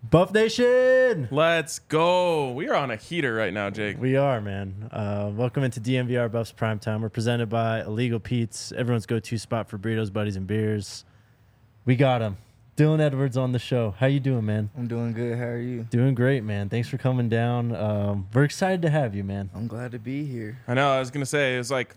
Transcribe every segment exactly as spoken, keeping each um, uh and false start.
Buff Nation! Let's go. We are on a heater right now, Jake. We are, man. Uh, welcome into D M V R Buffs Primetime. We're presented by Illegal Pete's, everyone's go-to spot for burritos, buddies, and beers. We got him. Dylan Edwards on the show. How you doing, man? I'm doing good. How are you? Doing great, man. Thanks for coming down. Um, we're excited to have you, man. I'm glad to be here. I know. I was going to say, it was like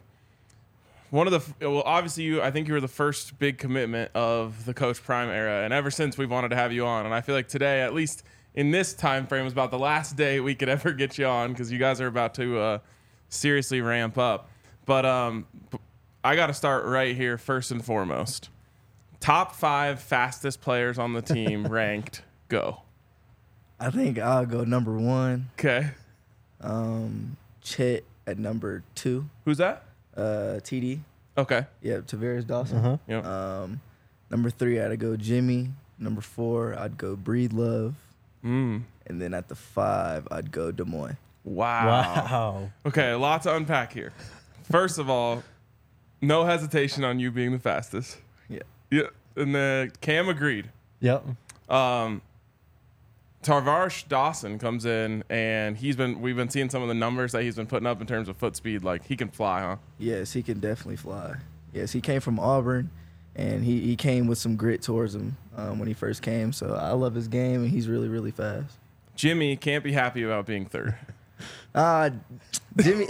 one of the, well, obviously, you. I think you were the first big commitment of the Coach Prime era. And ever since, we've wanted to have you on. And I feel like today, at least in this time frame, was about the last day we could ever get you on because you guys are about to uh, seriously ramp up. But um, I got to start right here, first and foremost. Top five fastest players on the team ranked. Go. I think I'll go number one. Okay. Um, Chet at number two. Who's that? Uh, T D. Okay. Yeah, Tavares Dawson. Uh-huh. Yep. Um, number three, I'd go Jimmy. Number four, I'd go Breed Love. Mm. And then at the five, I'd go Des Moines. Wow. Wow. Okay, a lot to unpack here. First of all, no hesitation on you being the fastest. Yeah. Yeah. And then Cam agreed. Yep. Um, Tavares Dawson comes in, and he's been. We've been seeing some of the numbers that he's been putting up in terms of foot speed. Like, he can fly, huh? Yes, he can definitely fly. Yes, he came from Auburn, and he, he came with some grit towards him um, when he first came. So I love his game, and he's really, really fast. Jimmy can't be happy about being third. Uh, Jimmy,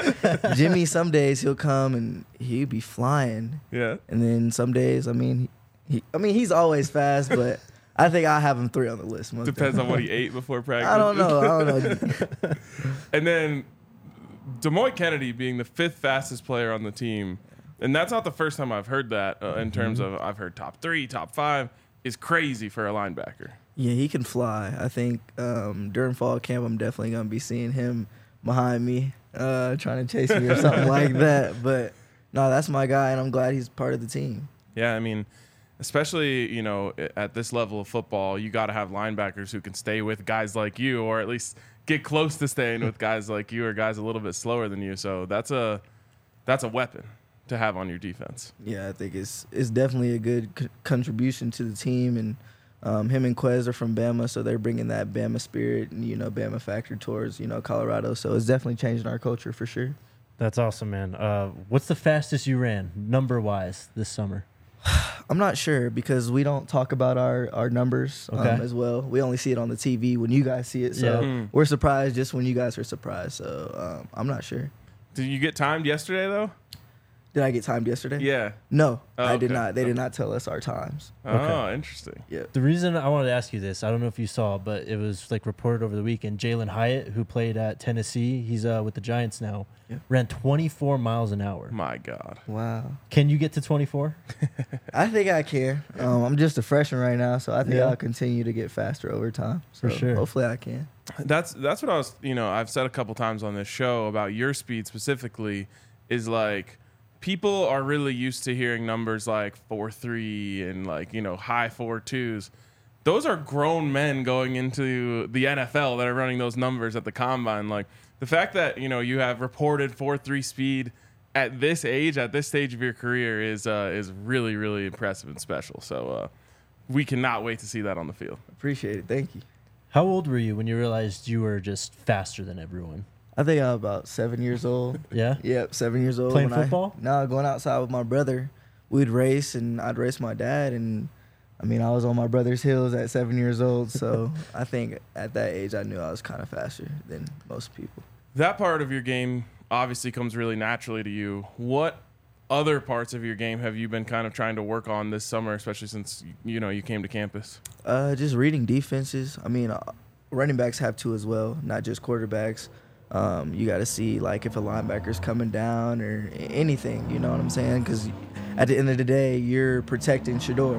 Jimmy, some days he'll come and he'll be flying. Yeah. And then some days, I mean, he, I mean, he's always fast, but I think I have him three on the list. Most Depends on what he ate before practice. I don't know. I don't know. And then Des Moines Kennedy being the fifth fastest player on the team. And that's not the first time I've heard that uh, in terms of I've heard top three, top five is crazy for a linebacker. Yeah, he can fly. I think um, during fall camp, I'm definitely going to be seeing him behind me, uh, trying to chase me or something like that. But no, that's my guy, and I'm glad he's part of the team. Yeah, I mean, especially, you know, at this level of football, you got to have linebackers who can stay with guys like you, or at least get close to staying with guys like you or guys a little bit slower than you. So that's a that's a weapon to have on your defense. Yeah, I think it's it's definitely a good c- contribution to the team, and um, him and Quez are from Bama, so they're bringing that Bama spirit and, you know, Bama factor towards, you know, Colorado. So it's definitely changing our culture for sure. That's awesome, man. Uh, what's the fastest you ran, number-wise, this summer? I'm not sure because we don't talk about our, our numbers um, Okay. as well. We only see it on the T V when you guys see it. So Yeah. Mm. we're surprised just when you guys are surprised. So um, I'm not sure. Did you get timed yesterday, though? Did I get timed yesterday? Yeah. No, Oh, I did okay. not. They did not tell us our times. Oh, interesting. Yeah. The reason I wanted to ask you this, I don't know if you saw, but it was like reported over the weekend. Jalen Hyatt, who played at Tennessee, he's uh, with the Giants now, Yeah. ran twenty-four miles an hour. My God. Wow. Can you get to twenty-four? I think I can. Um, I'm just a freshman right now, so I think Yeah. I'll continue to get faster over time. For So sure. Hopefully I can. That's that's what I was, you know, I've said a couple times on this show about your speed specifically is like people are really used to hearing numbers like four three and like, you know, high four twos. Those are grown men going into the N F L that are running those numbers at the combine. Like the fact that, you know, you have reported four three speed at this age, at this stage of your career is uh, is really, really impressive and special. So uh, we cannot wait to see that on the field. Appreciate it. Thank you. How old were you when you realized you were just faster than everyone? I think I'm about seven years old. Yeah? Yep, seven years old. Playing when football? I, no, going outside with my brother. We'd race, and I'd race my dad. And, I mean, I was on my brother's heels at seven years old. So I think at that age, I knew I was kind of faster than most people. That part of your game obviously comes really naturally to you. What other parts of your game have you been kind of trying to work on this summer, especially since, you know, you came to campus? Uh, just reading defenses. I mean, uh, running backs have to as well, not just quarterbacks. Um, you got to see, like, if a linebacker's coming down or anything, you know what I'm saying? Because at the end of the day, you're protecting Shedeur.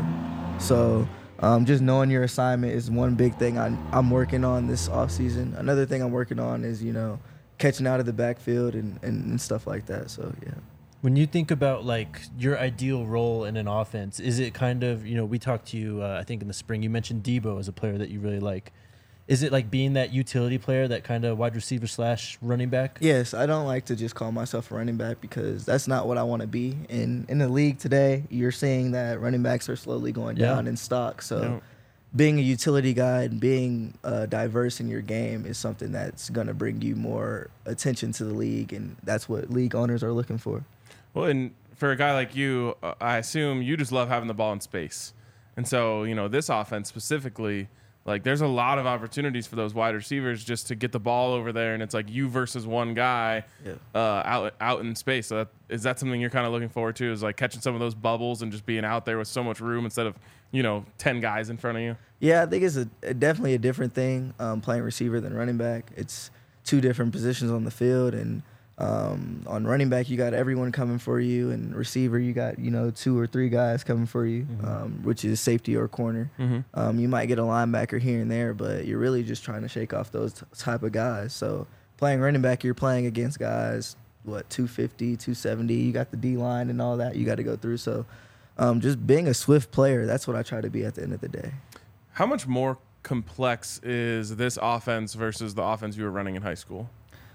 So um, just knowing your assignment is one big thing I'm, I'm working on this offseason. Another thing I'm working on is, you know, catching out of the backfield and, and, and stuff like that. So, yeah. When you think about like your ideal role in an offense, is it kind of, you know, we talked to you, uh, I think in the spring, you mentioned Debo as a player that you really like. Is it like being that utility player, that kind of wide receiver slash running back? Yes, I don't like to just call myself a running back because that's not what I want to be. In in the league today, you're seeing that running backs are slowly going Yeah. down in stock. So Yeah. being a utility guy and being uh, diverse in your game is something that's going to bring you more attention to the league, and that's what league owners are looking for. Well, and for a guy like you, uh, I assume you just love having the ball in space. And so, you know, this offense specifically, like there's a lot of opportunities for those wide receivers just to get the ball over there, and it's like you versus one guy Yeah. uh, out out in space. So that, is that something you're kind of looking forward to, is like catching some of those bubbles and just being out there with so much room instead of, you know, ten guys in front of you? Yeah, I think it's a, a definitely a different thing um, playing receiver than running back. It's two different positions on the field, and um, on running back you got everyone coming for you, and receiver you got, you know, two or three guys coming for you, Mm-hmm. um, which is safety or corner. Mm-hmm. Um, you might get a linebacker here and there, but you're really just trying to shake off those t- type of guys. So playing running back, you're playing against guys, what, two fifty, two seventy. You got the D-line and all that you got to go through. So um, just being a swift player, that's what I try to be at the end of the day. How much more complex is this offense versus the offense you were running in high school?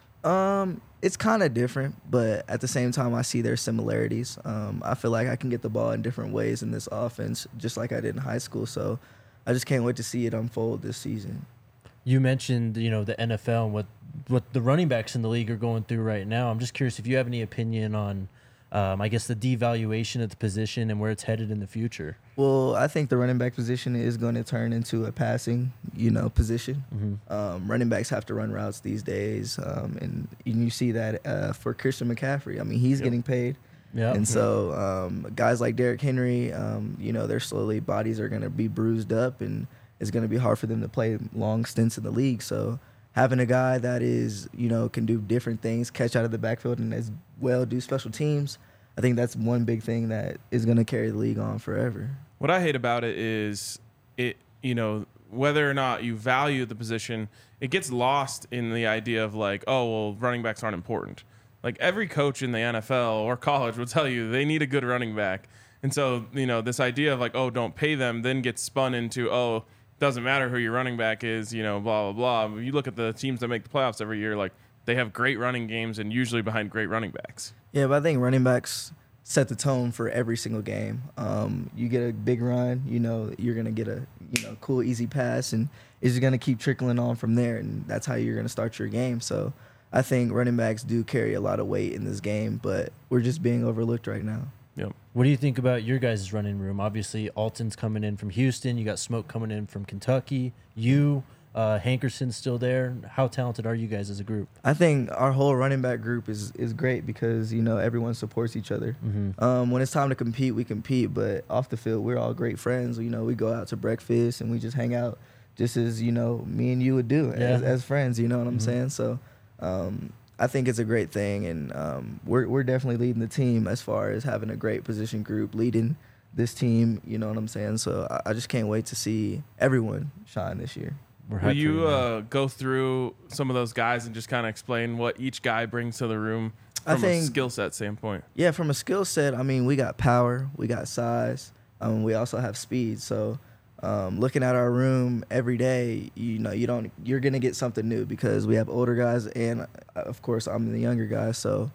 Um, it's kind of different, but at the same time, I see their similarities. Um, I feel like I can get the ball in different ways in this offense, just like I did in high school. So I just can't wait to see it unfold this season. You mentioned, you know, the N F L and what what the running backs in the league are going through right now. I'm just curious if you have any opinion on, um, I guess, the devaluation of the position and where it's headed in the future. Well, I think the running back position is going to turn into a passing, you know, position. Mm-hmm. Um, running backs have to run routes these days, um, and, and you see that uh, for Christian McCaffrey. I mean, he's Yep. getting paid. Yeah. And so um, guys like Derrick Henry, um, you know, they're slowly, bodies are going to be bruised up, and it's going to be hard for them to play long stints in the league. So having a guy that is, you know, can do different things, catch out of the backfield, and as well do special teams, I think that's one big thing that is going to carry the league on forever. What I hate about it is it, you know, whether or not you value the position, it gets lost in the idea of like, oh, well, running backs aren't important. Like every coach in the N F L or college will tell you they need a good running back. And so, you know, this idea of like, oh, don't pay them, then gets spun into, oh, doesn't matter who your running back is, you know, blah, blah, blah. You look at the teams that make the playoffs every year, like they have great running games and usually behind great running backs. Yeah, but I think running backs set the tone for every single game. Um, you get a big run, you know, you're going to get a, you know, cool, easy pass, and it's going to keep trickling on from there, and that's how you're going to start your game. So I think running backs do carry a lot of weight in this game, but we're just being overlooked right now. Yep. What do you think about your guys' running room? Obviously, Alton's coming in from Houston. You got Smoke coming in from Kentucky. You, uh, Hankerson's still there. How talented are you guys as a group? I think our whole running back group is, is great because, you know, everyone supports each other. Mm-hmm. Um, when it's time to compete, we compete, but off the field, we're all great friends. You know, we go out to breakfast and we just hang out just as, you know, me and you would do Yeah. as, as friends, you know what I'm Mhm. saying? So um, I think it's a great thing, and um, we're, we're definitely leading the team as far as having a great position group, leading this team, you know what I'm saying? So I, I just can't wait to see everyone shine this year. We're hyped Will for you man. uh, go through some of those guys and just kind of explain what each guy brings to the room I from a think- skill set standpoint? Yeah, from a skill set, I mean, we got power, we got size, um, we also have speed. So, um, looking at our room every day, you know, you don't, you're gonna get something new because we have older guys, and uh, of course, I'm the younger guy. So,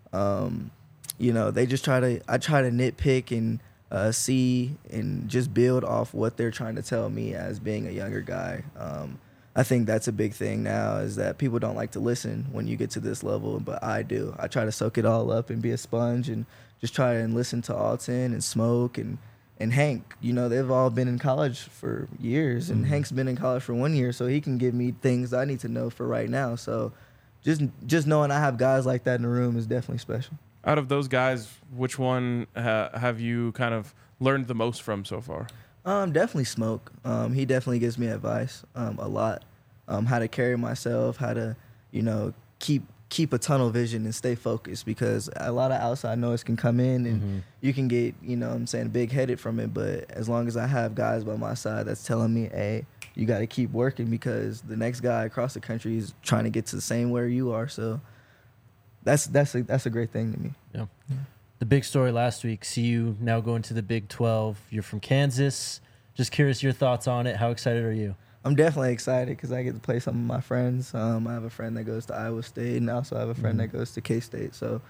um, you know, they just try to, I try to nitpick and uh, see and just build off what they're trying to tell me as being a younger guy. Um, I think that's a big thing now, is that people don't like to listen when you get to this level, but I do. I try to soak it all up and be a sponge and just try and listen to Alton and Smoke and, and Hank. You know, they've all been in college for years, and Mhm. Hank's been in college for one year, so he can give me things I need to know for right now. So just just knowing I have guys like that in the room is definitely special. Out of those guys, which one ha- have you kind of learned the most from so far? Um, definitely Smoke. Um, he definitely gives me advice um, a lot. Um, how to carry myself, how to, you know, keep keep a tunnel vision and stay focused, because a lot of outside noise can come in and Mhm. you can get, you know what I'm saying, big headed from it. But as long as I have guys by my side that's telling me, hey, you got to keep working because the next guy across the country is trying to get to the same where you are. So that's that's a, that's a great thing to me. Yeah. The big story last week, see you now going to the Big twelve. You're from Kansas. Just curious your thoughts on it. How excited are you? I'm definitely excited because I get to play some of my friends. Um, I have a friend that goes to Iowa State, and I also have a friend Mhm. that goes to K-State. So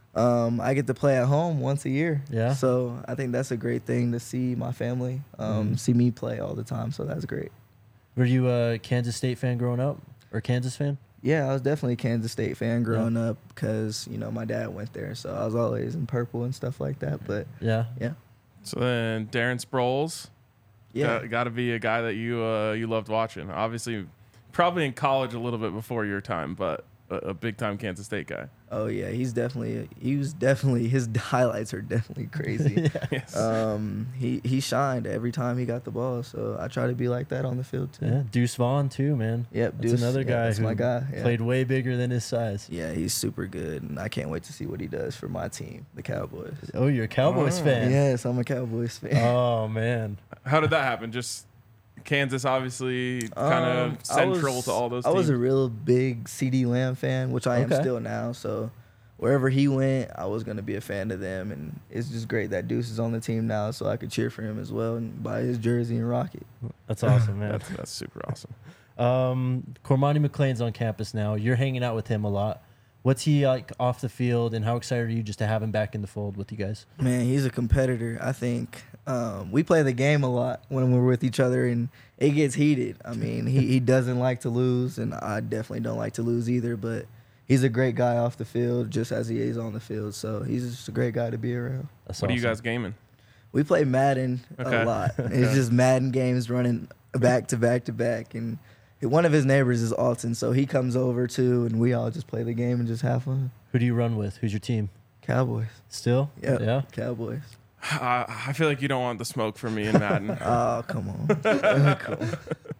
Um, I get to play at home once a year. Yeah. So I think that's a great thing to see my family, um, Mhm. see me play all the time. So that's great. Were you a Kansas State fan growing up, or Kansas fan? Yeah, I was definitely a Kansas State fan growing up because, you know, my dad went there. So I was always in purple and stuff like that. But Yeah. yeah. So then Darren Sproles, Yeah. got, got to be a guy that you uh, you loved watching. Obviously, probably in college a little bit before your time, but a, a big time Kansas State guy. Oh yeah, he's definitely he was definitely his highlights are definitely crazy. Yeah. Yes. Um, he he shined every time he got the ball, so I try to be like that on the field too. Yeah, Deuce Vaughn too, man. Yep, That's Deuce, another yeah, guy that's who my guy. Yeah. played way bigger than his size. Yeah, he's super good, and I can't wait to see what he does for my team, the Cowboys. Oh, you're a Cowboys Oh. fan. Yes, I'm a Cowboys fan. Oh man. How did that happen? Just Kansas, obviously, kind of Um, I central was- to all those I teams. was a real big C D Lamb fan, which I am Okay. still now. So wherever he went, I was going to be a fan of them, and it's just great that Deuce is on the team now, so I could cheer for him as well and buy his jersey and rock it. That's awesome, man. that's, that's super awesome. Um, Cormani McLean's on campus now. You're hanging out with him a lot. What's he like off the field, and how excited are you just to have him back in the fold with you guys? Man, he's a competitor. I think um, we play the game a lot when we're with each other, and it gets heated. I mean, he, he doesn't like to lose, and I definitely don't like to lose either, but he's a great guy off the field just as he is on the field. So he's just a great guy to be around. That's What are you awesome. guys gaming? We play Madden Okay. a lot. It's just Madden games running back to back to back. And one of his neighbors is Alton, so he comes over too, and we all just play the game and just have fun. Who do you run with? Who's your team? Cowboys. Still? Yep. Yeah. Cowboys. I, I feel like you don't want the smoke from me in Madden. Oh, come on. Come on.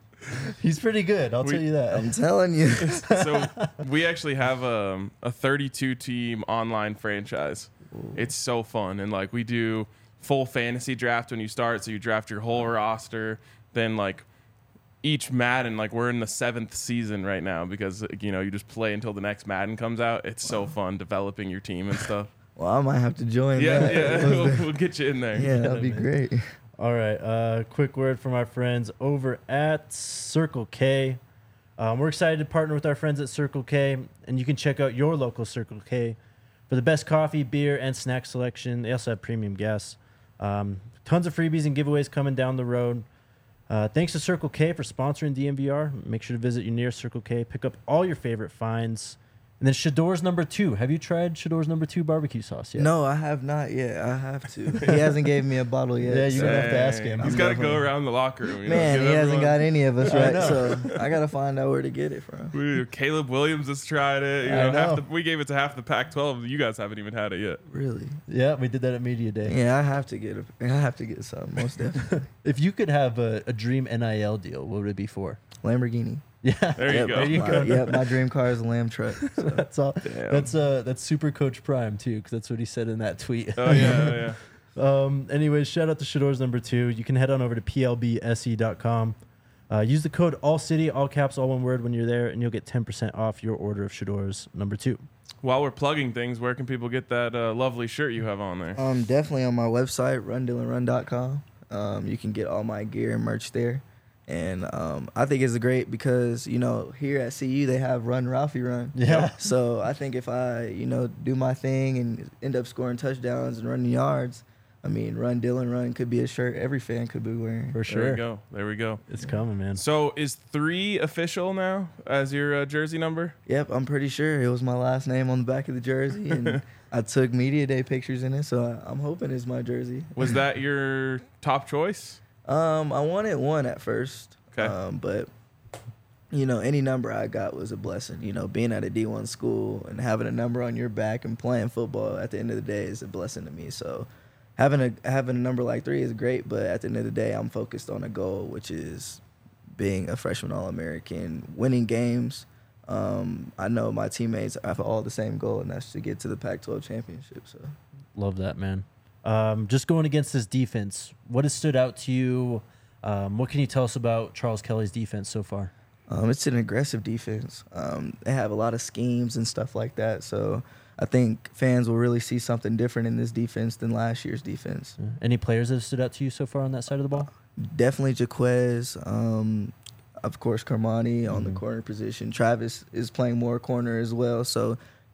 He's pretty good. I'll We- tell you that. I'm telling you. So we actually have um, a thirty-two team online franchise. It's so fun, and like we do full fantasy draft when you start, so you draft your whole roster. Then like each Madden, like we're in the seventh season right now because you know you just play until the next Madden comes out. It's so fun developing your team and stuff. Well, I might have to join Yeah, that. yeah, we'll, we'll get you in there. Yeah, that'd be man. great. All right. Uh, quick word from our friends over at Circle K. Um, we're excited to partner with our friends at Circle K, and you can check out your local Circle K for the best coffee, beer, and snack selection. They also have premium gas. Um, tons of freebies and giveaways coming down the road. Uh, thanks to Circle K for sponsoring D M V R. Make sure to visit your nearest Circle K. Pick up all your favorite finds. And then Shador's number two. Have you tried Shador's number two barbecue sauce yet? No, I have not yet. I have to. He hasn't gave me a bottle yet. Yeah, you're so- gonna have to ask him. He's I'm got to go definitely- around the locker room. You know, Man, give he hasn't everyone- got any of us I right, know. so I gotta find out where to get it from. We, Caleb Williams has tried it. You I know, half know. the, we gave it to half the Pac twelve. You guys haven't even had it yet. Really? Yeah, we did that at Media Day. Yeah, I have to get a, I have to get some, most definitely. If you could have a, a dream N I L deal, what would it be for? Lamborghini. Yeah, There you Yep, go. There you my, go. Yep, my dream car is a Lamb truck. So. that's all. Damn. That's uh, that's Super Coach Prime too, because that's what he said in that tweet. Oh yeah, yeah. Um, anyways, shout out to Shador's number two. You can head on over to P L B S E dot com. Uh, use the code ALLCITY, all caps, all one word when you're there, and you'll get ten percent off your order of Shador's number two. While we're plugging things, where can people get that uh, lovely shirt you have on there? Um, definitely on my website, run dylan run dot com. Um, you can get all my gear and merch there. And um, I think it's great because, you know, here at C U, they have Run Ralphie Run. Yeah. So I think if I, you know, do my thing and end up scoring touchdowns and running yards, I mean, Run Dylan Run could be a shirt every fan could be wearing. For There sure. we go. There we go. It's coming, man. So is three official now as your uh, jersey number? Yep, I'm pretty sure it was my last name on the back of the jersey, and I took media day pictures in it, so I, I'm hoping it's my jersey. Was that your top choice? Um, I wanted one at first. Okay. Um, but you know, any number I got was a blessing. You know, being at a D one school and having a number on your back and playing football at the end of the day is a blessing to me. So having a having a number like three is great, but at the end of the day, I'm focused on a goal, which is being a freshman All-American, winning games. Um, I know my teammates have all the same goal, and that's to get to the Pac twelve championship. So. Love that, man. Um, just going against this defense, what has stood out to you? Um, what can you tell us about Charles Kelly's defense so far? Um, it's an aggressive defense. Um, they have a lot of schemes and stuff like that. So I think fans will really see something different in this defense than last year's defense. Yeah. Any players that have stood out to you so far on that side of the ball? Definitely Jaquez. Um, of course, Carmani on Mhm. the corner position. Travis is playing more corner as well. So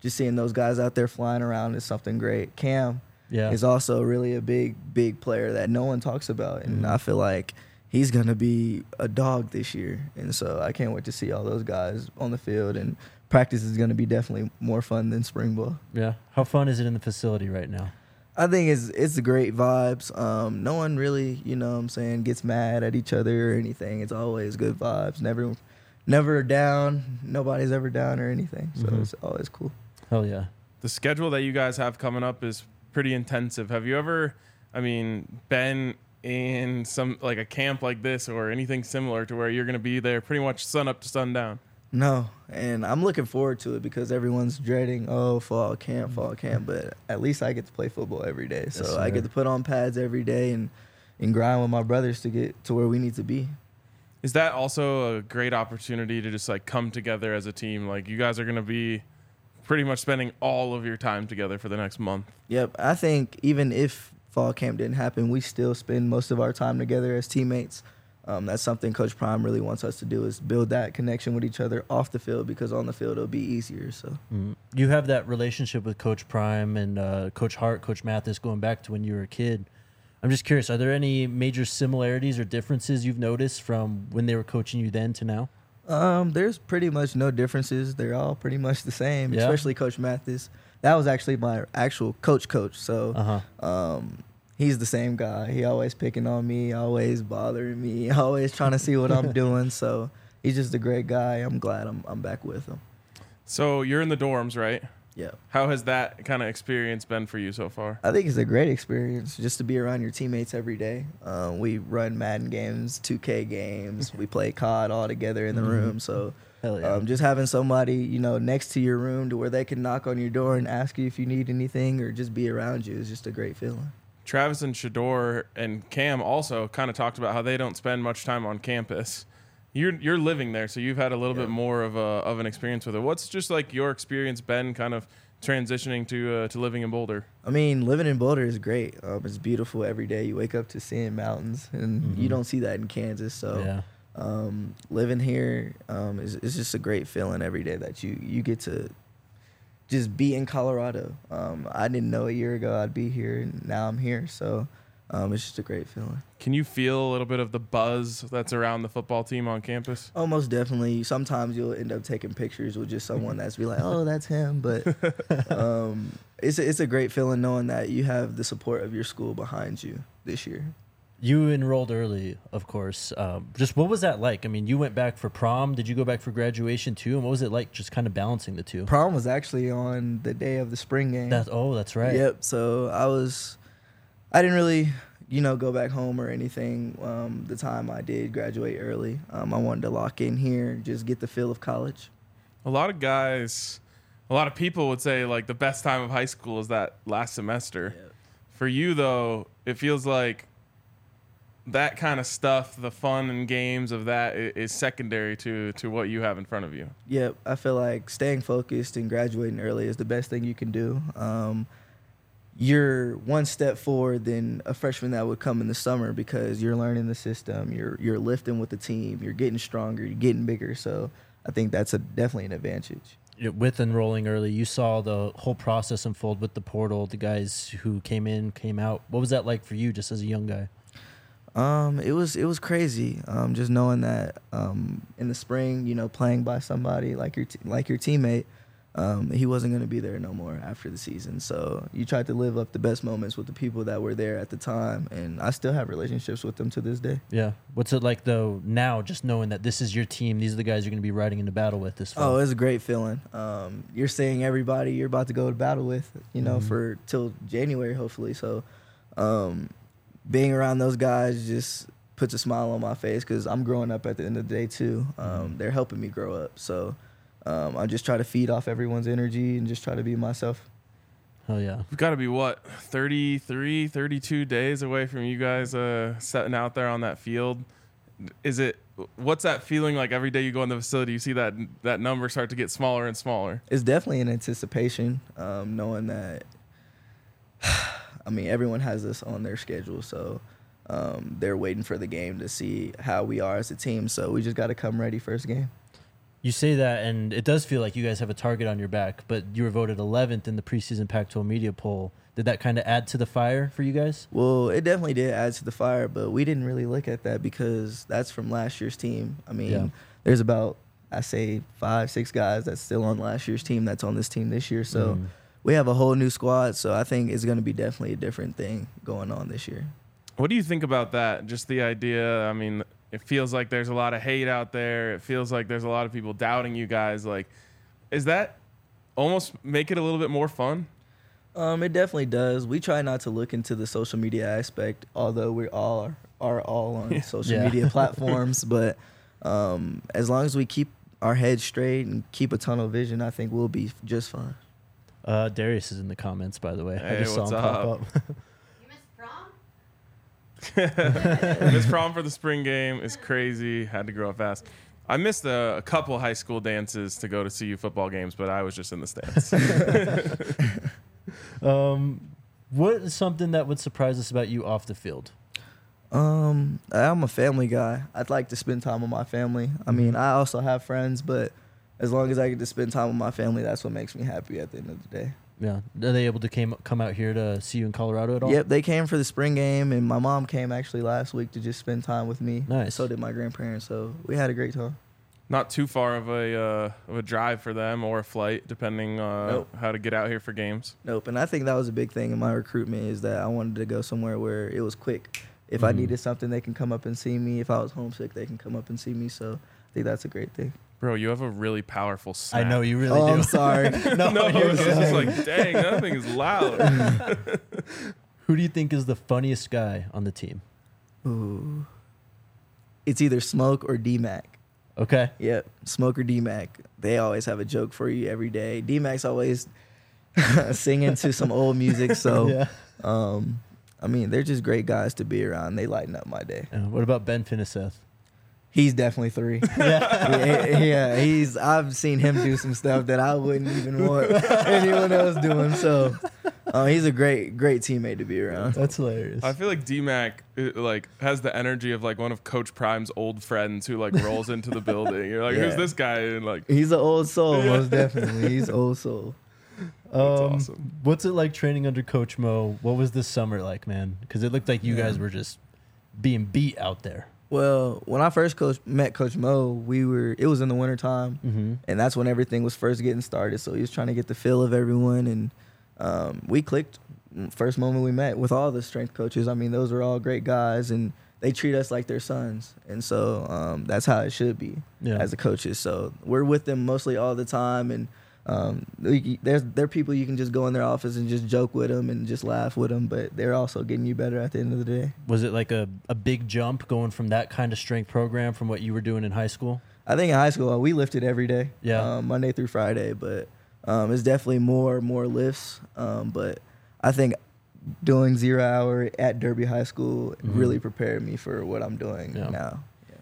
just seeing those guys out there flying around is something great. Cam Yeah. is also really a big, big player that no one talks about. And Mhm. I feel like he's going to be a dog this year. And so I can't wait to see all those guys on the field. And practice is going to be definitely more fun than spring ball. Yeah. How fun is it in the facility right now? I think it's it's great vibes. Um, no one really, you know what I'm saying, gets mad at each other or anything. It's always good vibes. Never never down. Nobody's ever down or anything. So Mhm. it's always cool. Hell yeah. The schedule that you guys have coming up is pretty intensive. Have you ever, I mean, been in some like a camp like this or anything similar to where you're going to be there pretty much sun up to sundown? No, and I'm looking forward to it because everyone's dreading, oh, fall camp, fall camp. But at least I get to play football every day. So Yes, I sir. get to put on pads every day and, and grind with my brothers to get to where we need to be. Is that also a great opportunity to just like come together as a team? Like you guys are going to be pretty much spending all of your time together for the next month. Yep. I think even if fall camp didn't happen, we still spend most of our time together as teammates. Um, that's something Coach Prime really wants us to do is build that connection with each other off the field because on the field it'll be easier. So Mhm. You have that relationship with Coach Prime and uh, Coach Hart, Coach Mathis going back to when you were a kid. I'm just curious, are there any major similarities or differences you've noticed from when they were coaching you then to now? um, there's pretty much no differences. They're all pretty much the same, Yeah. especially Coach Mathis. That was actually my actual coach coach. So Uh-huh. um, he's the same guy. He always picking on me, always bothering me, always trying to see what I'm doing. So he's just a great guy. I'm glad I'm I'm back with him. So you're in the dorms, right? Yeah. How has that kind of experience been for you so far? I think it's a great experience just to be around your teammates every day. Um, we run Madden games, two K games. We play C O D all together in the Mhm. room. So Hell yeah. um, just having somebody, you know, next to your room to where they can knock on your door and ask you if you need anything or just be around you is just a great feeling. Travis and Shador and Cam also kind of talked about how they don't spend much time on campus. You're you're living there, so you've had a little Yeah. bit more of a of an experience with it. What's just like your experience been kind of transitioning to uh, to living in Boulder? I mean, living in Boulder is great. Um, it's beautiful every day. You wake up to seeing mountains, and you Mhm. don't see that in Kansas. So yeah. um, living here um, is, is just a great feeling every day that you, you get to just be in Colorado. Um, I didn't know a year ago I'd be here, and now I'm here. So um, it's just a great feeling. Can you feel a little bit of the buzz that's around the football team on campus? Oh, most definitely. Sometimes you'll end up taking pictures with just someone that's be like, oh, that's him. But um, it's, a, it's a great feeling knowing that you have the support of your school behind you this year. You enrolled early, of course. Um, just what was that like? I mean, you went back for prom. Did you go back for graduation too? And what was it like just kind of balancing the two? Prom was actually on the day of the spring game. That, oh, that's right. Yep. So I was, I didn't really, you know, go back home or anything. Um, the time I did graduate early, um, I wanted to lock in here, just get the feel of college. A lot of guys, a lot of people would say like the best time of high school is that last semester. For you though, it feels like that kind of stuff, the fun and games of that i- is secondary to to what you have in front of you. Yep. I feel like staying focused and graduating early is the best thing you can do. Um, you're one step forward than a freshman that would come in the summer because you're learning the system, you're you're lifting with the team, you're getting stronger, you're getting bigger. So I think that's a definitely an advantage. Yeah, with enrolling early, you saw the whole process unfold with the portal, the guys who came in, came out. What was that like for you just as a young guy? Um, it was it was crazy. Um, just knowing that um, in the spring, you know, playing by somebody like your t- like your teammate, um, he wasn't going to be there no more after the season. So you tried to live up the best moments with the people that were there at the time, and I still have relationships with them to this day. Yeah. What's it like though now, just knowing that this is your team, these are the guys you're going to be riding into battle with this fall? Oh, it's a great feeling. Um, you're seeing everybody you're about to go to battle with, you know, Mhm. for till January hopefully. So, um, being around those guys just puts a smile on my face because I'm growing up at the end of the day too. Um, they're helping me grow up. So um, I just try to feed off everyone's energy and just try to be myself. Hell yeah. We've got to be what thirty-three, thirty-two days away from you guys uh, setting out there on that field. Is it what's that feeling like every day you go in the facility? You see that that number start to get smaller and smaller. It's definitely an anticipation, um, knowing that, I mean, everyone has this on their schedule. So um, they're waiting for the game to see how we are as a team. So we just got to come ready first game. You say that, and it does feel like you guys have a target on your back, but you were voted eleventh in the preseason Pac twelve media poll. Did that kind of add to the fire for you guys? Well, it definitely did add to the fire, but we didn't really look at that because that's from last year's team. I mean, Yeah. there's about, I say, five, six guys that's still on last year's team that's on this team this year. So Mm. we have a whole new squad. So I think it's going to be definitely a different thing going on this year. What do you think about that? Just the idea. I mean, it feels like there's a lot of hate out there. It feels like there's a lot of people doubting you guys. Like, is that almost make it a little bit more fun? Um, it definitely does. We try not to look into the social media aspect, although we all are, are all on social Yeah. media platforms. But um, as long as we keep our heads straight and keep a tunnel vision, I think we'll be just fine. Uh, Darius is in the comments, by the way. I Hey, just saw what's him pop up? up. You missed prom? This prom for the spring game is crazy. Had to grow up fast. I missed a, a couple high school dances to go to C U football games, but I was just in the stands. um, what is something that would surprise us about you off the field? Um, I'm a family guy. I'd like to spend time with my family. I mean, I also have friends, but as long as I get to spend time with my family, that's what makes me happy at the end of the day. Yeah, are they able to came, come out here to see you in Colorado at all? Yep, they came for the spring game, and my mom came actually last week to just spend time with me. Nice. So did my grandparents, so we had a great time. Not too far of a uh, of a drive for them or a flight, depending uh, Nope. how to get out here for games. Nope, and I think that was a big thing in my recruitment is that I wanted to go somewhere where it was quick. If I Mhm. needed something, they can come up and see me. If I was homesick, they can come up and see me. So I think that's a great thing. Bro, you have a really powerful I snap. know you really oh, do. I'm sorry. no, No, you're it's good. just like, dang, that thing is loud. Who do you think is the funniest guy on the team? Ooh. It's either Smoke or D-Mac. Okay. Yep, Smoke or D-Mac. They always have a joke for you every day. D-Mac's always singing to some old music. So, yeah. um, I mean, they're just great guys to be around. They lighten up my day. Uh, what about Ben Finiseth? He's definitely three. yeah, yeah, he's. I've seen him do some stuff that I wouldn't even want anyone else doing. So, uh, he's a great, great teammate to be around. That's hilarious. I feel like D-Mac uh, like has the energy of like one of Coach Prime's old friends who like rolls into the building. You're like, who's Yeah. this guy? And like, He's an old soul, Yeah. most definitely. He's old soul. that's Um, awesome. What's it like training under Coach Mo? What was this summer like, man? Because it looked like you Yeah. guys were just being beat out there. Well, when I first coach, met Coach Mo, we were. It was in the wintertime. Mm-hmm. And that's when everything was first getting started. So he was trying to get the feel of everyone, and um, we clicked first moment we met with all the strength coaches. I mean, those are all great guys, and they treat us like their sons. And so um, that's how it should be Yeah. as the coaches. So we're with them mostly all the time, and um, we, there's there are people you can just go in their office and just joke with them and just laugh with them, but they're also getting you better at the end of the day. Was it like a, a big jump going from that kind of strength program from what you were doing in high school? I think in high school we lifted every day, Yeah. um, Monday through Friday, but um, it's definitely more more lifts. Um, but I think doing zero hour at Derby High School Mhm. really prepared me for what I'm doing Yeah. now.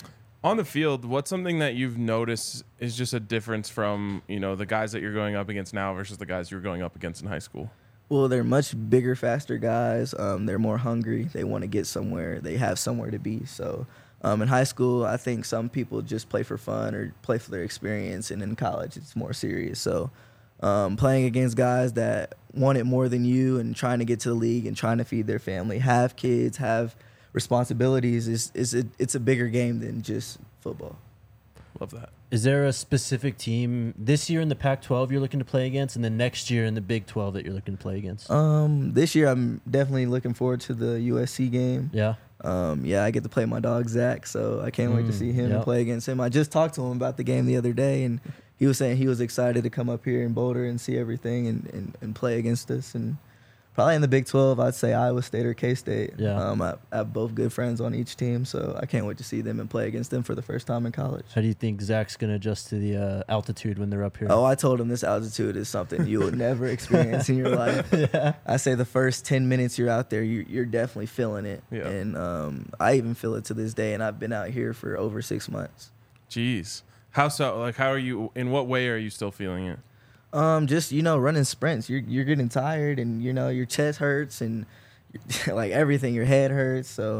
On the field, what's something that you've noticed is just a difference from, you know, the guys that you're going up against now versus the guys you were going up against in high school? Well, they're much bigger, faster guys. Um, they're more hungry. They want to get somewhere. They have somewhere to be. So um, in high school, I think some people just play for fun or play for their experience, and in college, it's more serious. So um, playing against guys that want it more than you and trying to get to the league and trying to feed their family, have kids, have responsibilities, is is a, it's a bigger game than just football. Love that. Is there a specific team this year in the Pac twelve you're looking to play against, and then next year in the Big twelve that you're looking to play against? Um, this year, I'm definitely looking forward to the U S C game. yeah. Um, yeah, I get to play my dog Zach, so I can't wait to Mm, see him yep. and play against him. I just talked to him about the game the other day, and he was saying he was excited to come up here in Boulder and see everything and, and, and play against us. And probably in the Big twelve, I'd say Iowa State or K-State. Yeah. Um, I, I have both good friends on each team, so I can't wait to see them and play against them for the first time in college. How do you think Zach's going to adjust to the uh, altitude when they're up here? Oh, I told him this altitude is something you will never experience in your life. yeah. I say the first ten minutes you're out there, you, you're definitely feeling it. Yeah. And um, I even feel it to this day, and I've been out here for over six months. Jeez. How so? Like, how are you, in what way are you still feeling it? Um, just, you know, running sprints, you're you're getting tired, and, you know, your chest hurts, and like everything, your head hurts. So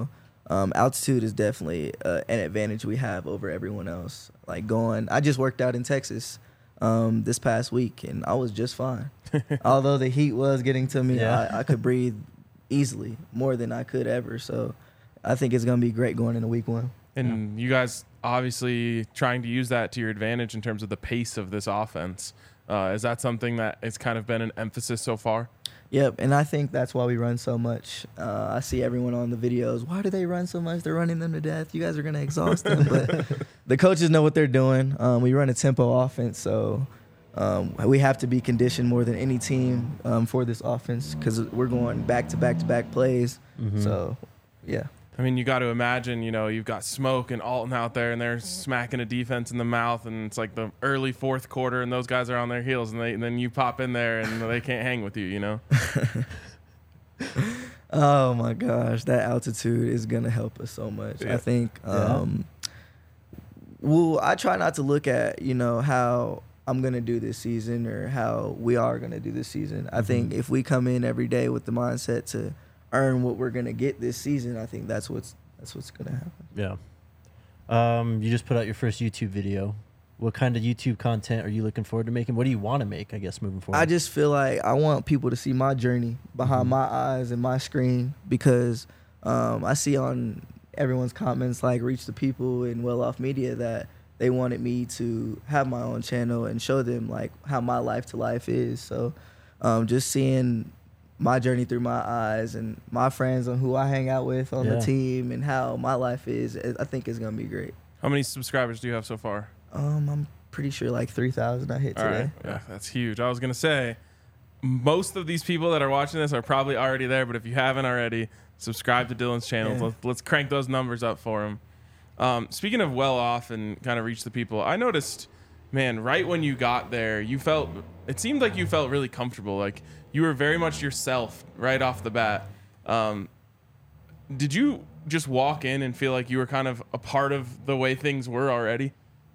um, altitude is definitely uh, an advantage we have over everyone else. Like going, I just worked out in Texas um, this past week, and I was just fine. Although the heat was getting to me, Yeah. I, I could breathe easily, more than I could ever. So I think it's going to be great going into week one. And you guys obviously trying to use that to your advantage in terms of the pace of this offense. Uh, is that something that has kind of been an emphasis so far? Yep, and I think that's why we run so much. Uh, I see everyone on the videos. Why do they run so much? They're running them to death. You guys are going to exhaust them. But the coaches know what they're doing. Um, we run a tempo offense, so um, we have to be conditioned more than any team um, for this offense because we're going back to back to back plays. Mm-hmm. So, yeah. I mean, you got to imagine, you know, you've got Smoke and Alton out there, and they're smacking a defense in the mouth, and it's like the early fourth quarter, and those guys are on their heels, and, they, and then you pop in there, and they can't hang with you, you know? Oh, my gosh. That altitude is going to help us so much. Yeah. I think, um, well, I try not to look at, you know, how I'm going to do this season or how we are going to do this season. I think if we come in every day with the mindset to earn what we're gonna get this season, I think that's what's that's what's gonna happen. Yeah. Um, you just put out your first YouTube video. What kind of YouTube content are you looking forward to making? What do you want to make, I guess, moving forward? I just feel like I want people to see my journey behind Mm-hmm. my eyes and my screen because um, I see on everyone's comments like Reach the People and Well Off Media that they wanted me to have my own channel and show them like how my life to life is. So um, just seeing my journey through my eyes and my friends and who I hang out with on Yeah. the team and how my life is, I think it's gonna be great. How many subscribers do you have so far? Um, I'm pretty sure like three thousand I hit All today. right. Yeah, that's huge. I was going to say, most of these people that are watching this are probably already there, but if you haven't already, subscribe to Dylan's channel. Yeah. Let's, let's crank those numbers up for him. Um, speaking of Well Off and kind of Reach the People, I noticed, man, right when you got there, you felt, it seemed like you felt really comfortable. Like you were very much yourself right off the bat. Um, did you just walk in and feel like you were kind of a part of the way things were already?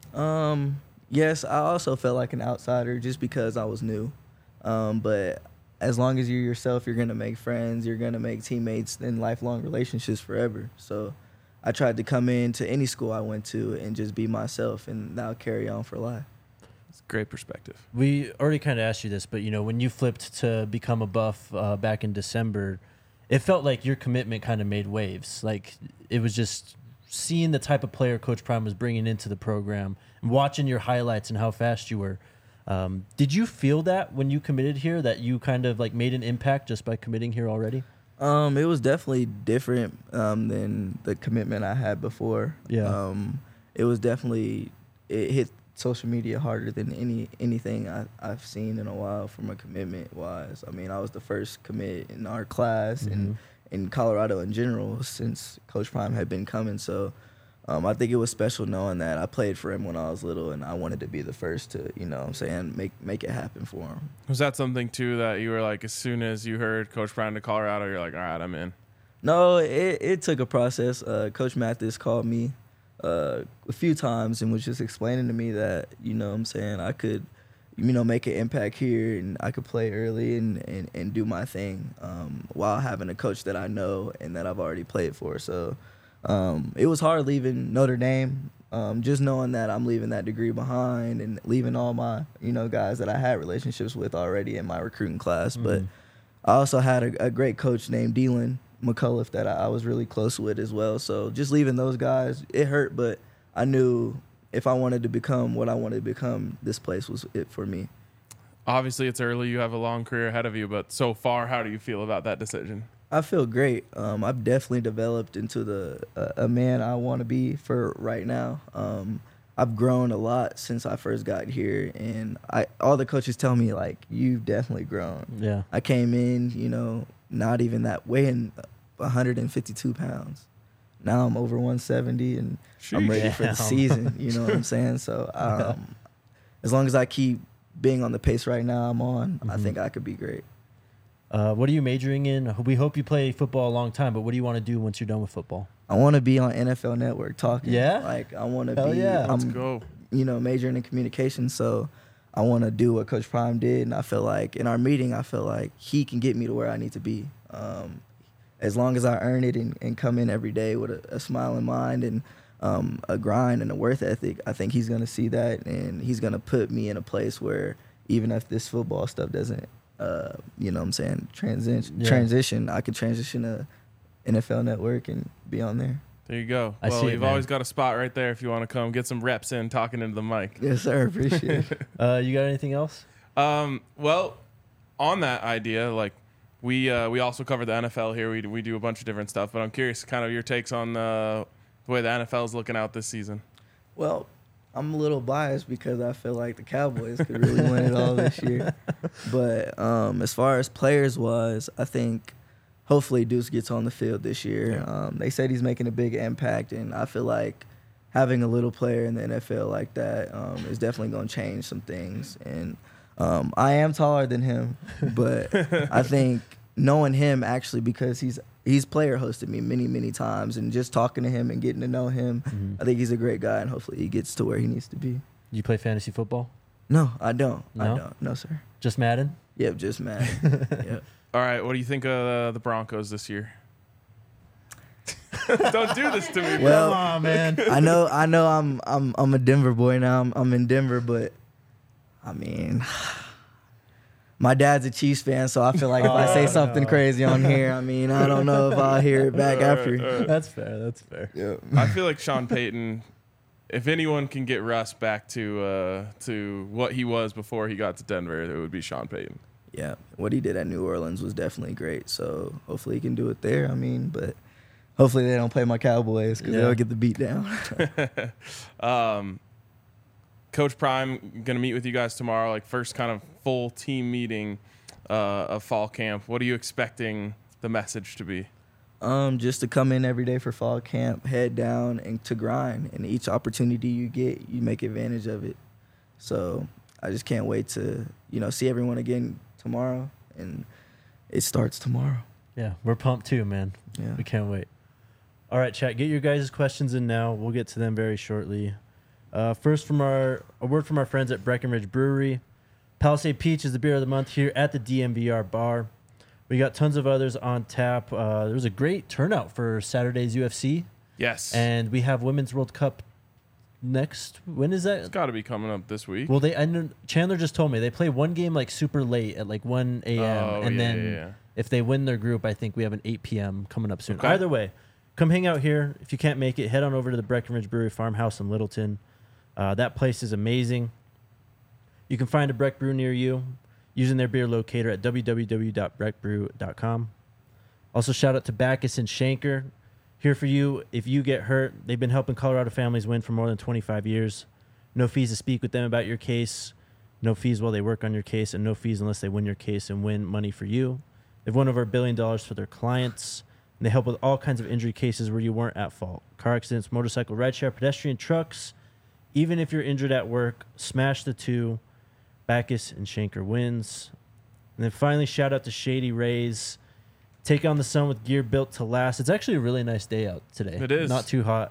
Um, yes, I also felt like an outsider just because I was new. Um, but as long as you're yourself, you're gonna make friends, you're gonna make teammates and lifelong relationships forever. So I tried to come into any school I went to and just be myself, and that'll carry on for life. It's a great perspective. We already kind of asked you this, but you know, when you flipped to become a Buff uh, back in December, it felt like your commitment kind of made waves. Like it was just seeing the type of player Coach Prime was bringing into the program and watching your highlights and how fast you were. Um, did you feel that when you committed here, that you kind of like made an impact just by committing here already? Um, it was definitely different um, than the commitment I had before. Yeah. Um, it was definitely it hit social media harder than any anything I, I've seen in a while from a commitment wise. I mean, I was the first commit in our class Mhm. and in Colorado in general since Coach Prime had been coming. So um, I think it was special knowing that I played for him when I was little and I wanted to be the first to, you know what I'm saying, make make it happen for him. Was that something too that you were like, as soon as you heard Coach Brown to Colorado, you're like, all right, I'm in? No, it, it took a process. Uh, Coach Mathis called me uh, a few times and was just explaining to me that, you know what I'm saying, I could, you know, make an impact here and I could play early and, and, and do my thing um, while having a coach that I know and that I've already played for. So um, it was hard leaving Notre Dame, um, just knowing that I'm leaving that degree behind and leaving all my, you know, guys that I had relationships with already in my recruiting class. But I also had a, a great coach named Dylan McCullough that I, I was really close with as well. So just leaving those guys, it hurt, but I knew if I wanted to become what I wanted to become, this place was it for me. Obviously, it's early. You have a long career ahead of you, but so far, how do you feel about that decision? I feel great. Um, I've definitely developed into the uh, a man I want to be for right now. Um, I've grown a lot since I first got here, and I all the coaches tell me like you've definitely grown. Yeah. I came in, you know, not even that weighing one hundred fifty-two pounds. Now I'm over one seventy, and I'm ready for the Damn. season. You know what I'm saying? So um, as long as I keep being on the pace right now I'm on, I Mhm. think I could be great. Uh, what are you majoring in? We hope you play football a long time, but what do you want to do once you're done with football? I want to be on N F L Network talking. Yeah? Like I want to Hell be. yeah. Let's I'm, go. you know, majoring in communication. So I want to do what Coach Prime did, and I feel like in our meeting, I feel like he can get me to where I need to be. Um, as long as I earn it and, and come in every day with a, a smile in mind and um, a grind and a worth ethic, I think he's going to see that, and he's going to put me in a place where even if this football stuff doesn't, uh, you know what I'm saying, transition, Yeah. transition, I could transition to N F L Network and be on there. There you go. I well, see it, you've man. always got a spot right there if you want to come get some reps in talking into the mic. Yes, sir. Appreciate it. Uh, you got anything else? Um, well, on that idea, like we uh, we also cover the N F L here. We we do a bunch of different stuff, but I'm curious, kind of your takes on uh, the way the N F L is looking out this season. Well, I'm a little biased because I feel like the Cowboys could really win it all this year. But um, as far as players was, I think hopefully Deuce gets on the field this year. Yeah. Um, they said he's making a big impact, and I feel like having a little player in the N F L like that um, is definitely going to change some things. And um, I am taller than him, but I think knowing him actually, because he's he's player hosted me many, many times, and just talking to him and getting to know him, Mhm. I think he's a great guy, and hopefully he gets to where he needs to be. You play fantasy football? No, I don't. No? I don't. No, sir. Just Madden? Yep, just mad. Yep. All right, what do you think of uh, the Broncos this year? Don't do this to me, bro. Well, Come on, man. I know, I know. I'm, I'm, I'm a Denver boy now. I'm, I'm in Denver, but I mean, my dad's a Chiefs fan, so I feel like if I say Oh, something no. crazy on here, I mean, I don't know if I'll hear it back All right, after. all right. That's fair. That's fair. Yep. I feel like Sean Payton, if anyone can get Russ back to uh, to what he was before he got to Denver, it would be Sean Payton. Yeah, what he did at New Orleans was definitely great. So hopefully he can do it there. I mean, but hopefully they don't play my Cowboys because Yeah. they'll get the beat down. um, Coach Prime gonna meet with you guys tomorrow, like first kind of full team meeting uh, of fall camp. What are you expecting the message to be? Um, just to come in every day for fall camp, head down, and to grind. And each opportunity you get, you make advantage of it. So I just can't wait to, you know, see everyone again tomorrow. And it starts tomorrow. Yeah, we're pumped too, man. Yeah. We can't wait. All right, chat. Get your guys' questions in now. We'll get to them very shortly. Uh, first, from our a word from our friends at Breckenridge Brewery. Palisade Peach is the beer of the month here at the D M V R bar. We got tons of others on tap. Uh, there was a great turnout for Saturday's U F C, Yes, and we have Women's World Cup next. When is it's that? got to be coming up this week. Well, they I know, Chandler just told me they play one game like super late at like one a.m. Oh, and yeah, then yeah, yeah. if they win their group, I think we have an eight p.m. coming up soon. Okay. Either way, come hang out here. If you can't make it, head on over to the Breckenridge Brewery Farmhouse in Littleton. Uh, that place is amazing. You can find a Breck Brew near you using their beer locator at w w w dot breck brew dot com. Also, shout out to Backus and Shanker. Here for you if you get hurt. They've been helping Colorado families win for more than twenty-five years. No fees to speak with them about your case. No fees while they work on your case, and no fees unless they win your case and win money for you. They've won over a billion dollars for their clients. And they help with all kinds of injury cases where you weren't at fault. Car accidents, motorcycle, rideshare, pedestrian, trucks. Even if you're injured at work, smash the two. Backus and Shanker wins. And then finally, shout out to Shady Rays. Take on the sun with gear built to last. It's actually a really nice day out today. It is. Not too hot.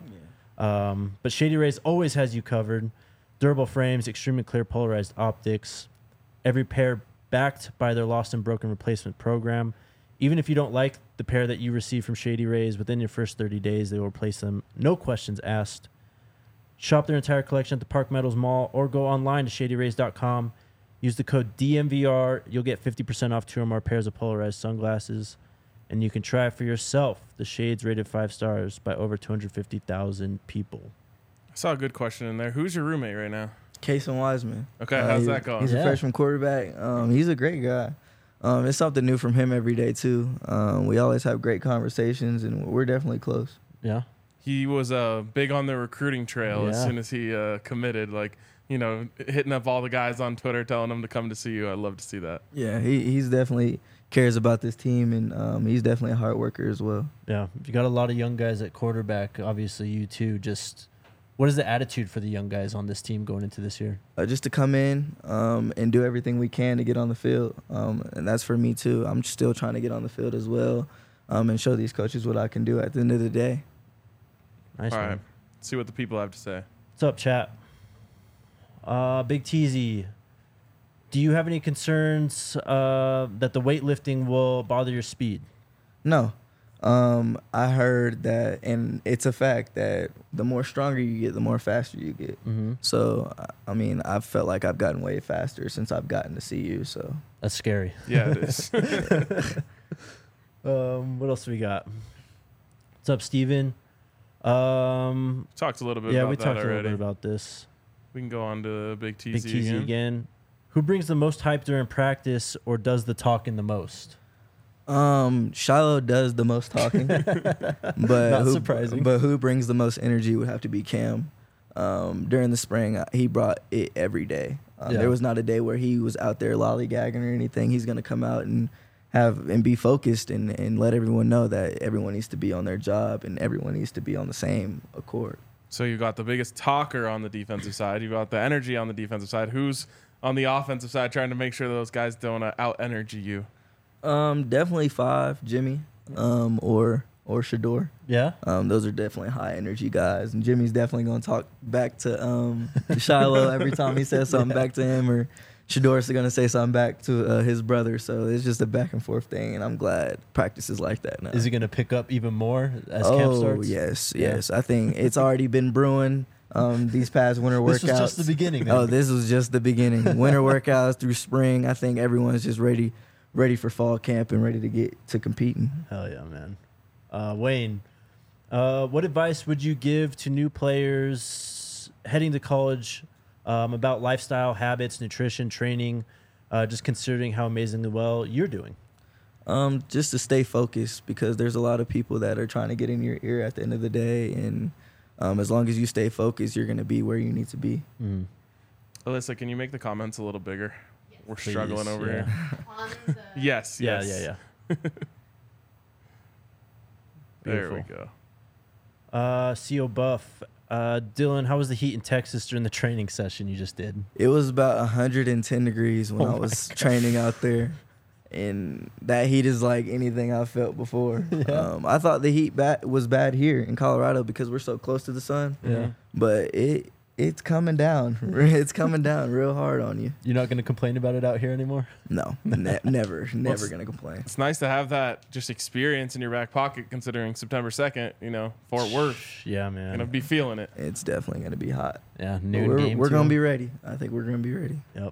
Um, but Shady Rays always has you covered. Durable frames, extremely clear polarized optics. Every pair backed by their lost and broken replacement program. Even if you don't like the pair that you receive from Shady Rays, within your first thirty days, they will replace them. No questions asked. Shop their entire collection at the Park Meadows Mall or go online to shady rays dot com. Use the code D M V R. You'll get fifty percent off two or more pairs of polarized sunglasses. And you can try it for yourself. The shades rated five stars by over two hundred fifty thousand people. I saw a good question in there. Who's your roommate right now? Casey Wiseman. Okay, Uh, how's he- that going? He's Yeah. a freshman quarterback. Um, he's a great guy. Um, it's something new from him every day, too. Um, we always have great conversations, and we're definitely close. Yeah? He was uh, big on the recruiting trail as Yeah. soon as he uh, committed. Like, you know, hitting up all the guys on Twitter, telling them to come to see you. I'd love to see that. Yeah, he he's definitely cares about this team, and um, he's definitely a hard worker as well. Yeah. You got a lot of young guys at quarterback. Obviously, you too. Just what is the attitude for the young guys on this team going into this year? Uh, just to come in um, and do everything we can to get on the field, um, and that's for me too. I'm still trying to get on the field as well, um, and show these coaches what I can do at the end of the day. Nice all one. right. See what the people have to say. What's up, chat? Uh, Big Teasy, do you have any concerns uh, that the weightlifting will bother your speed? No, Um, I heard that, and it's a fact that the more stronger you get, the more faster you get. Mm-hmm. So, I- I mean, I've felt like I've gotten way faster since I've gotten to see you. So, That's scary. Yeah, it is. Um, what else do we got? What's up, Steven? Um, Talked a little bit yeah, about we that talked a little already. bit about this. We can go on to Big T Big Z T Z again. again. Who brings the most hype during practice or does the talking the most? um, Shiloh does the most talking, but Not who, surprising. But who brings the most energy would have to be Cam. Um, during the spring, uh, he brought it every day. Um, Yeah. There was not a day where he was out there lollygagging or anything. He's gonna come out and have and be focused and, and let everyone know that everyone needs to be on their job and everyone needs to be on the same accord. So you got the biggest talker on the defensive side. You got the energy on the defensive side. Who's on the offensive side trying to make sure those guys don't uh, out energy you? Um, definitely five, Jimmy, um, or or Shador. Yeah? Um, those are definitely high energy guys, and Jimmy's definitely gonna talk back to um to Shiloh every time he says something Yeah. back to him, or Shador's gonna say something back to uh, his brother. So it's just a back and forth thing, and I'm glad practice is like that now. Is he going to pick up even more as oh, camp starts? yes, Yeah. yes. I think it's already been brewing. Um, these past winter workouts. This was just the beginning. Then. Oh, this was just the beginning. Winter workouts through spring. I think everyone's just ready, ready for fall camp and ready to get to competing. Hell yeah, man. Uh, Wayne, uh, what advice would you give to new players heading to college um, about lifestyle, habits, nutrition, training, uh, just considering how amazingly well you're doing? Um, just to stay focused because there's a lot of people that are trying to get in your ear at the end of the day, and um, as long as you stay focused, you're gonna be where you need to be. Mm. Alyssa, can you make the comments a little bigger? Yes. We're Please, struggling over yeah. here. On the Yes, Yeah, yes. yeah, yeah. There we Beautiful. go. Uh, C O Buff, uh, Dylan, how was the heat in Texas during the training session you just did? It was about one hundred ten degrees when Oh I my was God. training out there, and that heat is like anything I've felt before. Yeah. Um, I thought the heat ba- was bad here in Colorado because we're so close to the sun, Yeah. but it it's coming down. it's coming down real hard on you. You're not going to complain about it out here anymore? No, ne- never, never it's- gonna complain. It's nice to have that just experience in your back pocket considering September second, you know, Fort Worth. Yeah, man. Gonna be feeling it. It's definitely gonna be hot. yeah, But noon we're game we're too. gonna be ready. I think we're gonna be ready. Yep.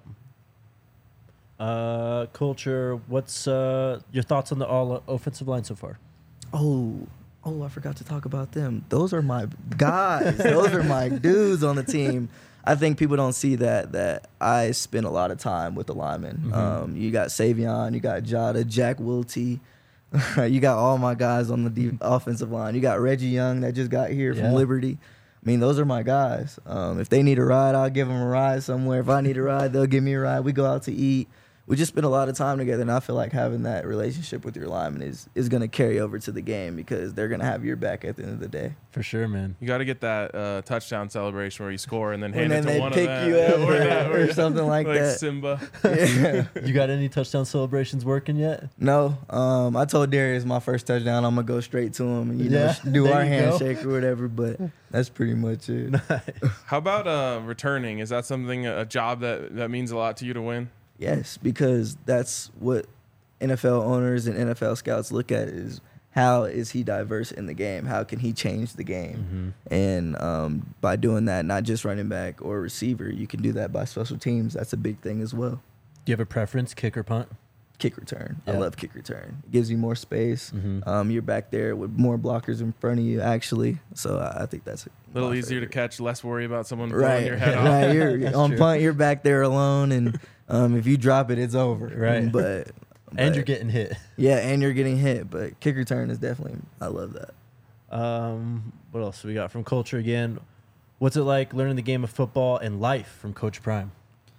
Uh, culture. What's uh your thoughts on the all offensive line so far? Oh, oh, I forgot to talk about them. Those are my guys. Those are my dudes on the team. I think people don't see that that I spend a lot of time with the linemen. Mhm. Um, you got Savion, you got Jada, Jack Wilty. You got all my guys on the de- offensive line. You got Reggie Young that just got here Yeah. from Liberty. I mean, those are my guys. Um, if they need a ride, I'll give them a ride somewhere. If I need a ride, they'll give me a ride. We go out to eat. We just spend a lot of time together, and I feel like having that relationship with your lineman is, is going to carry over to the game because they're going to have your back at the end of the day. For sure, man. You got to get that uh, touchdown celebration where you score and then hand And it then to they one pick of them. you up Yeah, or- that, or something like that. Simba. Yeah. You got any touchdown celebrations working yet? No, um, I told Darius my first touchdown, I'm going to go straight to him and, you Yeah, know, do there our you go. handshake or whatever, but that's pretty much it. How about uh, returning? Is that something, a job that, that means a lot to you to win? Yes, because that's what N F L owners and N F L scouts look at is how is he diverse in the game? How can he change the game? Mm-hmm. And um, by doing that, not just running back or receiver, you can do that by special teams. That's a big thing as well. Do you have a preference, kick or punt? Kick return. Yeah. I love kick return. It gives you more space. Mhm. Um, you're back there with more blockers in front of you, actually. So I, I think that's A little my easier to favorite. catch, less worry about someone blowing Right, your head off. right. You're That's on true. punt. You're back there alone, and um, if you drop it, it's over. Right. But, And but- you're getting hit. yeah, and you're getting hit. But kick return is definitely. I love that. Um, what else we got from culture again? What's it like learning the game of football and life from Coach Prime?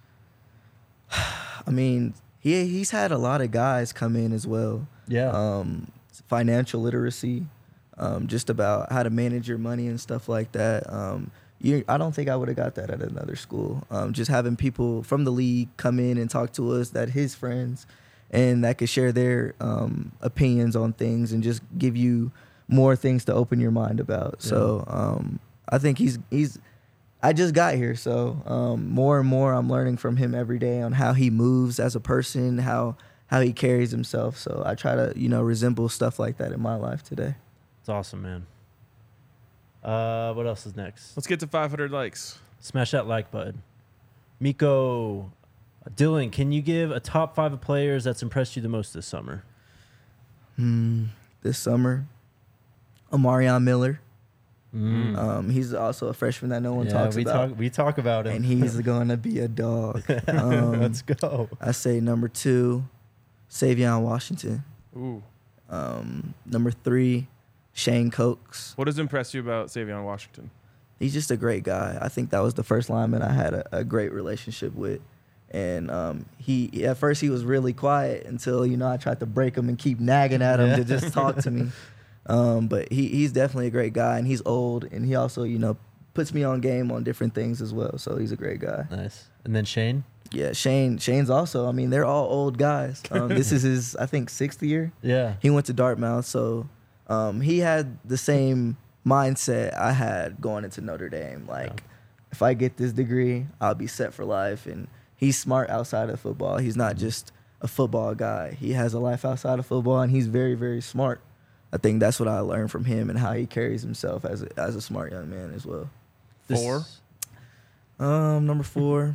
I mean, he he's had a lot of guys come in as well. Yeah. Um, financial literacy, um, just about how to manage your money and stuff like that. Um, you, I don't think I would have got that at another school. Um, just having people from the league come in and talk to us, that his friends, and that could share their um, opinions on things and just give you more things to open your mind about. Yeah. So um, I think he's he's. I just got here, so um, more and more I'm learning from him every day on how he moves as a person, how how he carries himself. So I try to, you know, resemble stuff like that in my life today. It's awesome, man. Uh, what else is next? Let's get to five hundred likes. Smash that like button. Miko, Dylan, can you give a top five of players that's impressed you the most this summer? Hmm, this summer, Omarion Miller. Mm. Um, he's also a freshman that no one yeah, talks we about. talk we talk about him, And he's going to be a dog. Um, Let's go. I say number two, Savion Washington. Ooh. Um, number three, Shane Cokes. What has impressed you about Savion Washington? He's just a great guy. I think that was the first lineman I had a, a great relationship with. And um, he at first he was really quiet until, you know, I tried to break him and keep nagging at him Yeah. to just talk to me. Um, but he, he's definitely a great guy, and he's old, and he also, you know, puts me on game on different things as well. So he's a great guy. Nice. And then Shane? Yeah, Shane. Shane's also, I mean, they're all old guys. Um, this is his, I think, sixth year. Yeah. He went to Dartmouth, so um, he had the same mindset I had going into Notre Dame. Like, Yeah. if I get this degree, I'll be set for life. And he's smart outside of football. He's not just a football guy. He has a life outside of football, and he's very, very smart. I think that's what I learned from him and how he carries himself as a, as a smart young man as well. This- Four. Um, number four,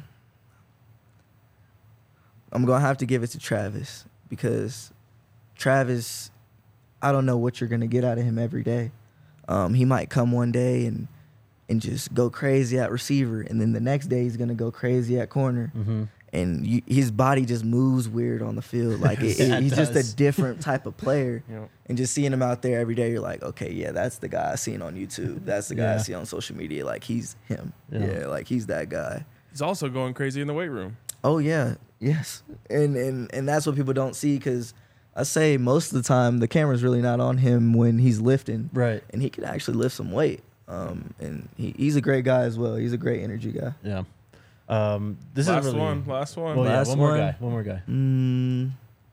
I'm gonna have to give it to Travis, because Travis, I don't know what you're gonna get out of him every day. Um, he might come one day and and just go crazy at receiver, and then the next day he's gonna go crazy at corner, Mhm. and you, his body just moves weird on the field. Like it, Yeah, it- it he's just does. a different type of player. You know, And just seeing him out there every day, you're like, okay, yeah, that's the guy I seen on YouTube. That's the guy I Yeah. see on social media. Like, he's him. Yeah. Yeah, like he's that guy. he's also going crazy in the weight room. Oh yeah, yes, and and and that's what people don't see, because I say most of the time the camera's really not on him when he's lifting, Right. and he can actually lift some weight. Um, and he, he's a great guy as well. He's a great energy guy. Yeah. Um, this last is really, one. Last one. Well, yeah, Last one more one. guy. One more guy. Mm,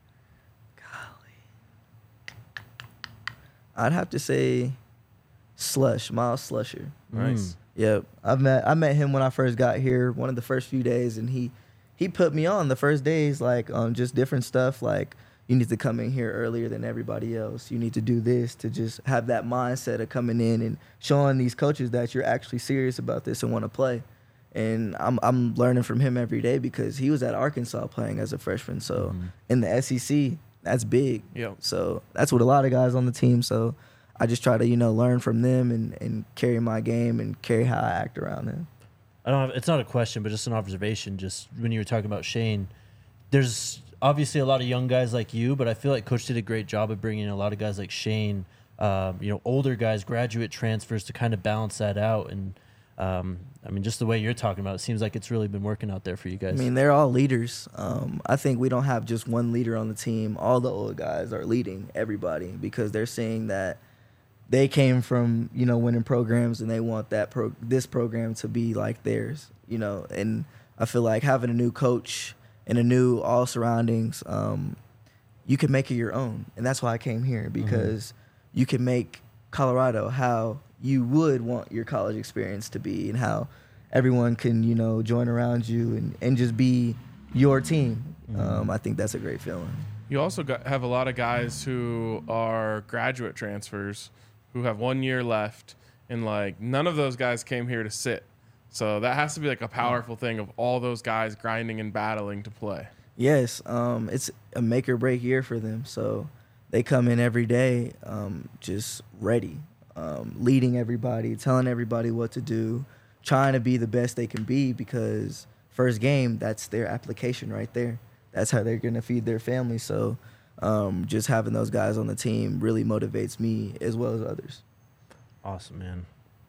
golly, I'd have to say Slush, Miles Slusher. Nice. Yep, I've met I met him when I first got here, one of the first few days, and he he put me on the first days, like on just different stuff, like you need to come in here earlier than everybody else. You need to do this, to just have that mindset of coming in and showing these coaches that you're actually serious about this and want to play. And I'm I'm learning from him every day, because he was at Arkansas playing as a freshman, so Mhm. in the S E C, that's big. Yep. So that's what a lot of guys on the team. So I just try to, you know, learn from them and, and carry my game and carry how I act around them. I don't have, it's not a question, but just an observation. Just when you were talking about Shane, there's obviously a lot of young guys like you, but I feel like Coach did a great job of bringing in a lot of guys like Shane, um, you know, older guys, graduate transfers to kind of balance that out. And um, I mean, just the way you're talking about it, seems like it's really been working out there for you guys. I mean, they're all leaders. Um, I think we don't have just one leader on the team. All the old guys are leading everybody, because they're seeing that they came from, you know, winning programs, and they want that pro- this program to be like theirs, you know. And I feel like having a new coach and a new all surroundings, um, you can make it your own. And that's why I came here, because you can make Colorado how you would want your college experience to be, and how everyone can, you know, join around you and, and just be your team. Um, I think that's a great feeling. You also got, have a lot of guys who are graduate transfers who have one year left, and like none of those guys came here to sit. So that has to be like a powerful thing, of all those guys grinding and battling to play. Yes, um, it's a make or break year for them. So they come in every day um, just ready, um, leading everybody, telling everybody what to do, trying to be the best they can be, because first game, that's their application right there. That's how they're going to feed their family. So um, just having those guys on the team really motivates me as well as others. Awesome, man.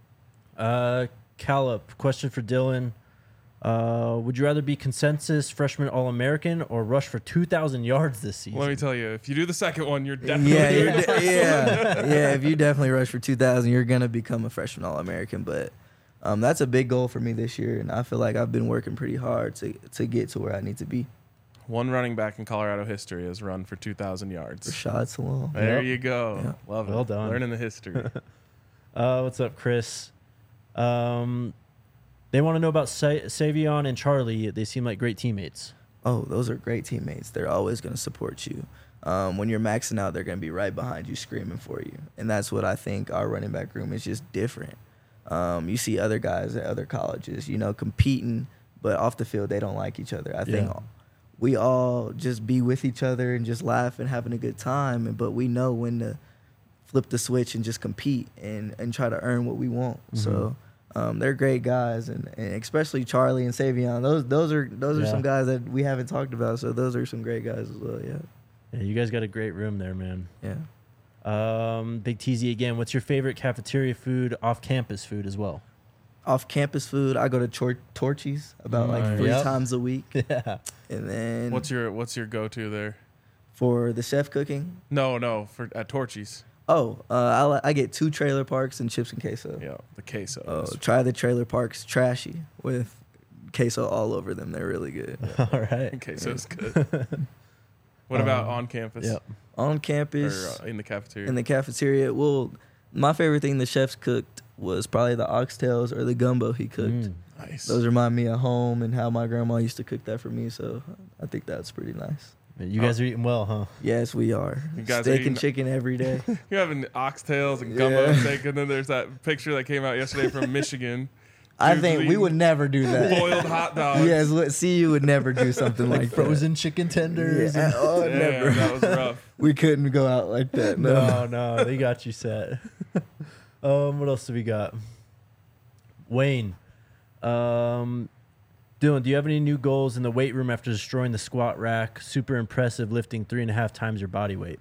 Uh, Callup, question for Dylan. Uh, would you rather be consensus freshman All-American or rush for two thousand yards this season? Let me tell you, if you do the second one, you're definitely Yeah, doing you're the de- first yeah, one. yeah. If you definitely rush for two thousand, you're gonna become a freshman All-American. But um, that's a big goal for me this year, and I feel like I've been working pretty hard to to get to where I need to be. One running back in Colorado history has run for two thousand yards. Rashad Salam. There Yep. you go. Yeah. Love it. Well done. Learning the history. Uh, what's up, Chris? Um, they want to know about Sa- Savion and Charlie. They seem like great teammates. oh, those are great teammates. They're always going to support you. Um, when you're maxing out, they're going to be right behind you screaming for you. And that's what I think our running back room is just different. Um, you see other guys at other colleges, you know, competing, but off the field, they don't like each other. I think Yeah. we all just be with each other and just laugh and having a good time. And But we know when to flip the switch and just compete and, and try to earn what we want. Mm-hmm. So um, they're great guys, and, and especially Charlie and Savion. Those those are those are Yeah. some guys that we haven't talked about. So those are some great guys as well. Yeah, Yeah, you guys got a great room there, man. yeah. Um, Big T Z again. What's your favorite cafeteria food, off-campus food as well? Off campus food, I go to Tor- Torchy's about like Nice. three Yep. times a week, Yeah. and then What's your What's your go to there? for the chef cooking. No, no, for at Torchy's. Oh, uh, I, li- I get two trailer parks and chips and queso. Yeah, the queso. Oh, is- try the trailer parks trashy with queso all over them. They're really good. All right. queso's good. What about Um, on campus? Yep. On Or campus, uh, in the cafeteria? in the cafeteria, well, my favorite thing the chefs cooked was probably the oxtails or the gumbo he cooked. Mm. nice. Those remind me of home and how my grandma used to cook that for me. So I think that's pretty nice. You guys are eating well, huh? Yes, we are. You guys are Steak eating- and chicken every day. You're having oxtails and gumbo Yeah. steak, and then there's that picture that came out yesterday from Michigan. I Dudes think we eating would never do that. boiled hot dogs. Yes, look, see, you would never do something like, Like frozen chicken that. tenders. Yeah, and- oh, Damn, never. that was rough. We couldn't go out like that. No. No, no, they got you set. um, what else do we got? Wayne, um, Dylan, do you have any new goals in the weight room after destroying the squat rack? Super impressive, lifting three and a half times your body weight.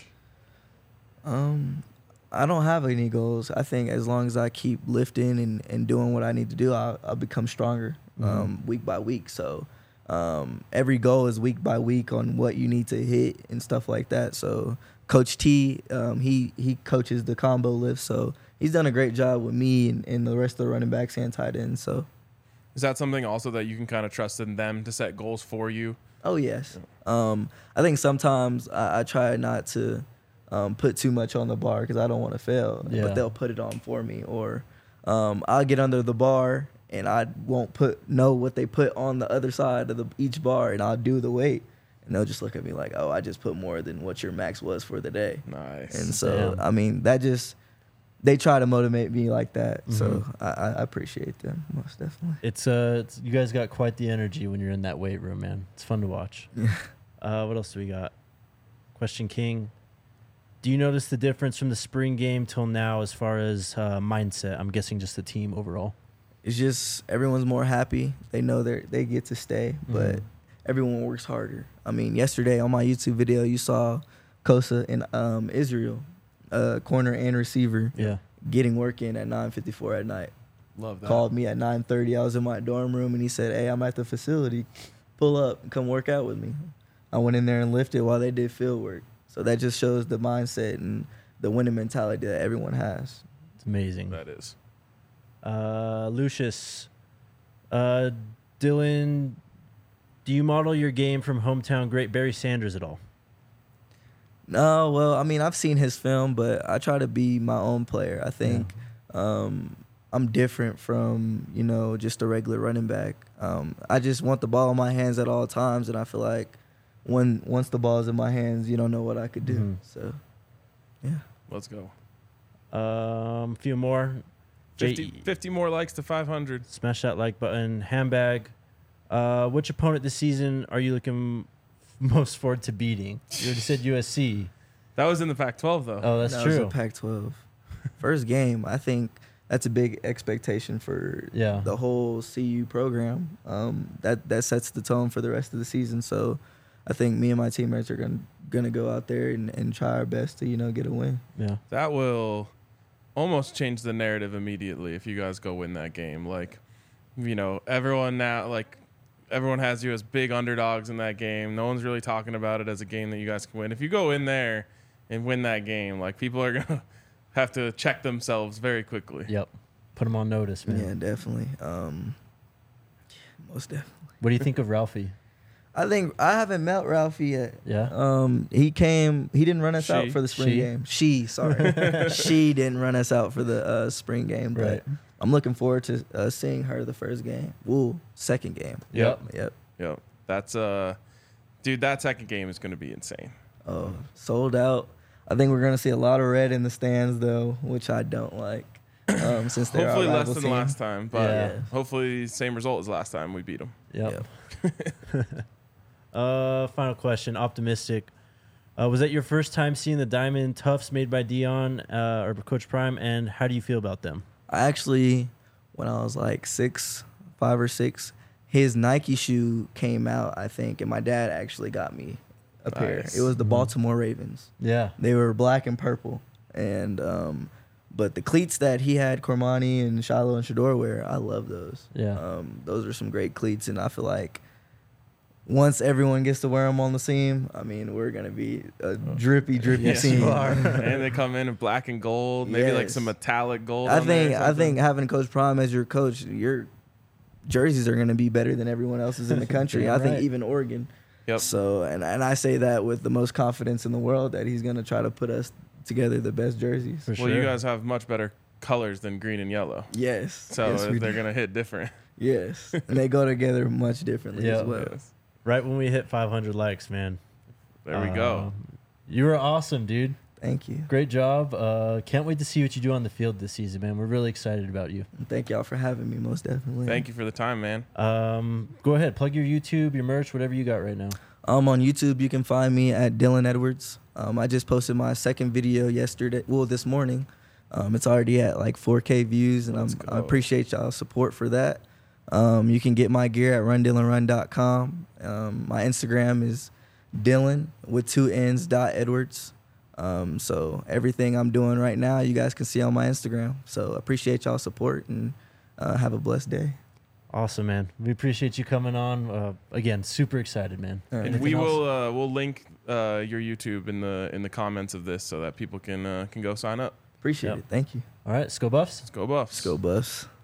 Um, I don't have any goals. I think as long as I keep lifting and, and doing what I need to do, I'll, I'll become stronger um, week by week. So um, every goal is week by week on what you need to hit and stuff like that. So Coach T, um, he he coaches the combo lift, so he's done a great job with me and, and the rest of the running backs and tight ends. So Is that something also that you can kind of trust in them to set goals for you? oh yes, um, I think sometimes I, I try not to um, put too much on the bar because I don't want to fail, Yeah. but they'll put it on for me, or um, I'll get under the bar and I won't put know what they put on the other side of the each bar, and I'll do the weight, and they'll just look at me like, oh, I just put more than what your max was for the day. Nice. And so, Damn. I mean, that just, they try to motivate me like that. So Mhm. I, I appreciate them most definitely. It's uh, it's, you guys got quite the energy when you're in that weight room, man. It's fun to watch. Uh, what else do we got? Question King. Do you notice the difference from the spring game till now as far as uh, mindset? I'm guessing just the team overall. It's just everyone's more happy. They know they they get to stay, but Mhm. everyone works harder. I mean, yesterday on my YouTube video, you saw Kosa and um, Israel, uh, corner and receiver, Yeah. getting work in at nine fifty-four at night. Love that. Called me at nine thirty. I was in my dorm room, and he said, hey, I'm at the facility. Pull up and come work out with me. I went in there and lifted while they did field work. So that just shows the mindset and the winning mentality that everyone has. It's amazing. That is. Uh, Lucius, uh, Dylan, do you model your game from hometown great Barry Sanders at all? No, well, I mean, I've seen his film, but I try to be my own player. I think um, I'm different from, you know, just a regular running back. Um, I just want the ball in my hands at all times, and I feel like when once the ball's in my hands, you don't know what I could do. Mhm. So, yeah. Let's go. Um, a few more. fifty, J- fifty more likes to five hundred. Smash that like button. Handbag. Uh, which opponent this season are you looking most forward to beating? You already said U S C. That was in the Pac twelve, though. Oh, that's That was true. a Pac twelve. First game, I think that's a big expectation for Yeah. the whole C U program. Um, that that sets the tone for the rest of the season. So I think me and my teammates are gonna gonna go out there and, and try our best to, you know, get a win. Yeah. That will almost change the narrative immediately if you guys go win that game. Like, you know, everyone now, like, everyone has you as big underdogs in that game. No one's really talking about it as a game that you guys can win. If you go in there and win that game, like, people are going to have to check themselves very quickly. Yep. Put him on notice, man. Yeah, definitely. Um, most definitely. What do you think of Ralphie? I think I haven't met Ralphie yet. Yeah. Um, he came. He didn't run us She. out for the spring She. game. She, sorry, she didn't run us out for the uh, spring game. But Right. I'm looking forward to uh, seeing her the first game. Woo, second game. Yep. Yep. Yep. That's uh, dude, that second game is going to be insane. Oh, sold out. I think we're gonna see a lot of red in the stands though, which I don't like. Um, since they're Hopefully our less rival than team. last time, but Yeah. hopefully same result as last time we beat them. Yep. uh, final question. Optimistic. Uh, was that your first time seeing the Diamond Tufts made by Dion uh, or Coach Prime? And how do you feel about them? I actually, when I was like six, five or six, his Nike shoe came out, I think, and my dad actually got me a pair. Nice. It was the Mhm. Baltimore Ravens. Yeah. They were black and purple, and um, but the cleats that he had, Cormani and Shiloh and Shador wear, I love those. Yeah. Um, those are some great cleats, and I feel like once everyone gets to wear them on the seam, I mean, we're gonna be a drippy, drippy Yes, team. you are. And they come in in black and gold, maybe like Yes. some metallic gold. I on there or think I something. think having Coach Prime as your coach, your jerseys are gonna be better than everyone else's in the country. Damn I think right. even Oregon. Yep. So, and and I say that with the most confidence in the world that he's gonna try to put us together the best jerseys. For Well, sure. you guys have much better colors than green and yellow, Yes. so yes, we they're do. gonna hit different. Yes, and they go together much differently Yeah. as well. Yes. Right when we hit five hundred likes, man. There we go. Um, You were awesome, dude. Thank you. Great job. Uh, can't wait to see what you do on the field this season, man. We're really excited about you. And thank y'all for having me. Most definitely. Thank you for the time, man. Um, go ahead, plug your YouTube, your merch, whatever you got right now. Um, on YouTube, you can find me at Dylan Edwards. Um, I just posted my second video yesterday. Well, this morning. Um, it's already at like four K views, and I'm, Let's I go. appreciate y'all's support for that. Um, you can get my gear at run dylan run dot com. Um, my Instagram is Dylan with two N's dot Edwards. Um, so everything I'm doing right now, you guys can see on my Instagram. So appreciate y'all's support, and uh, have a blessed day. Awesome, man. We appreciate you coming on. Uh, again, super excited, man. All right. And Anything we else? will uh, we'll link uh, your YouTube in the in the comments of this so that people can uh, can go sign up. Appreciate Yep. it. Thank you. All right, let's go Buffs. Let's go Buffs. Let's go, Buffs.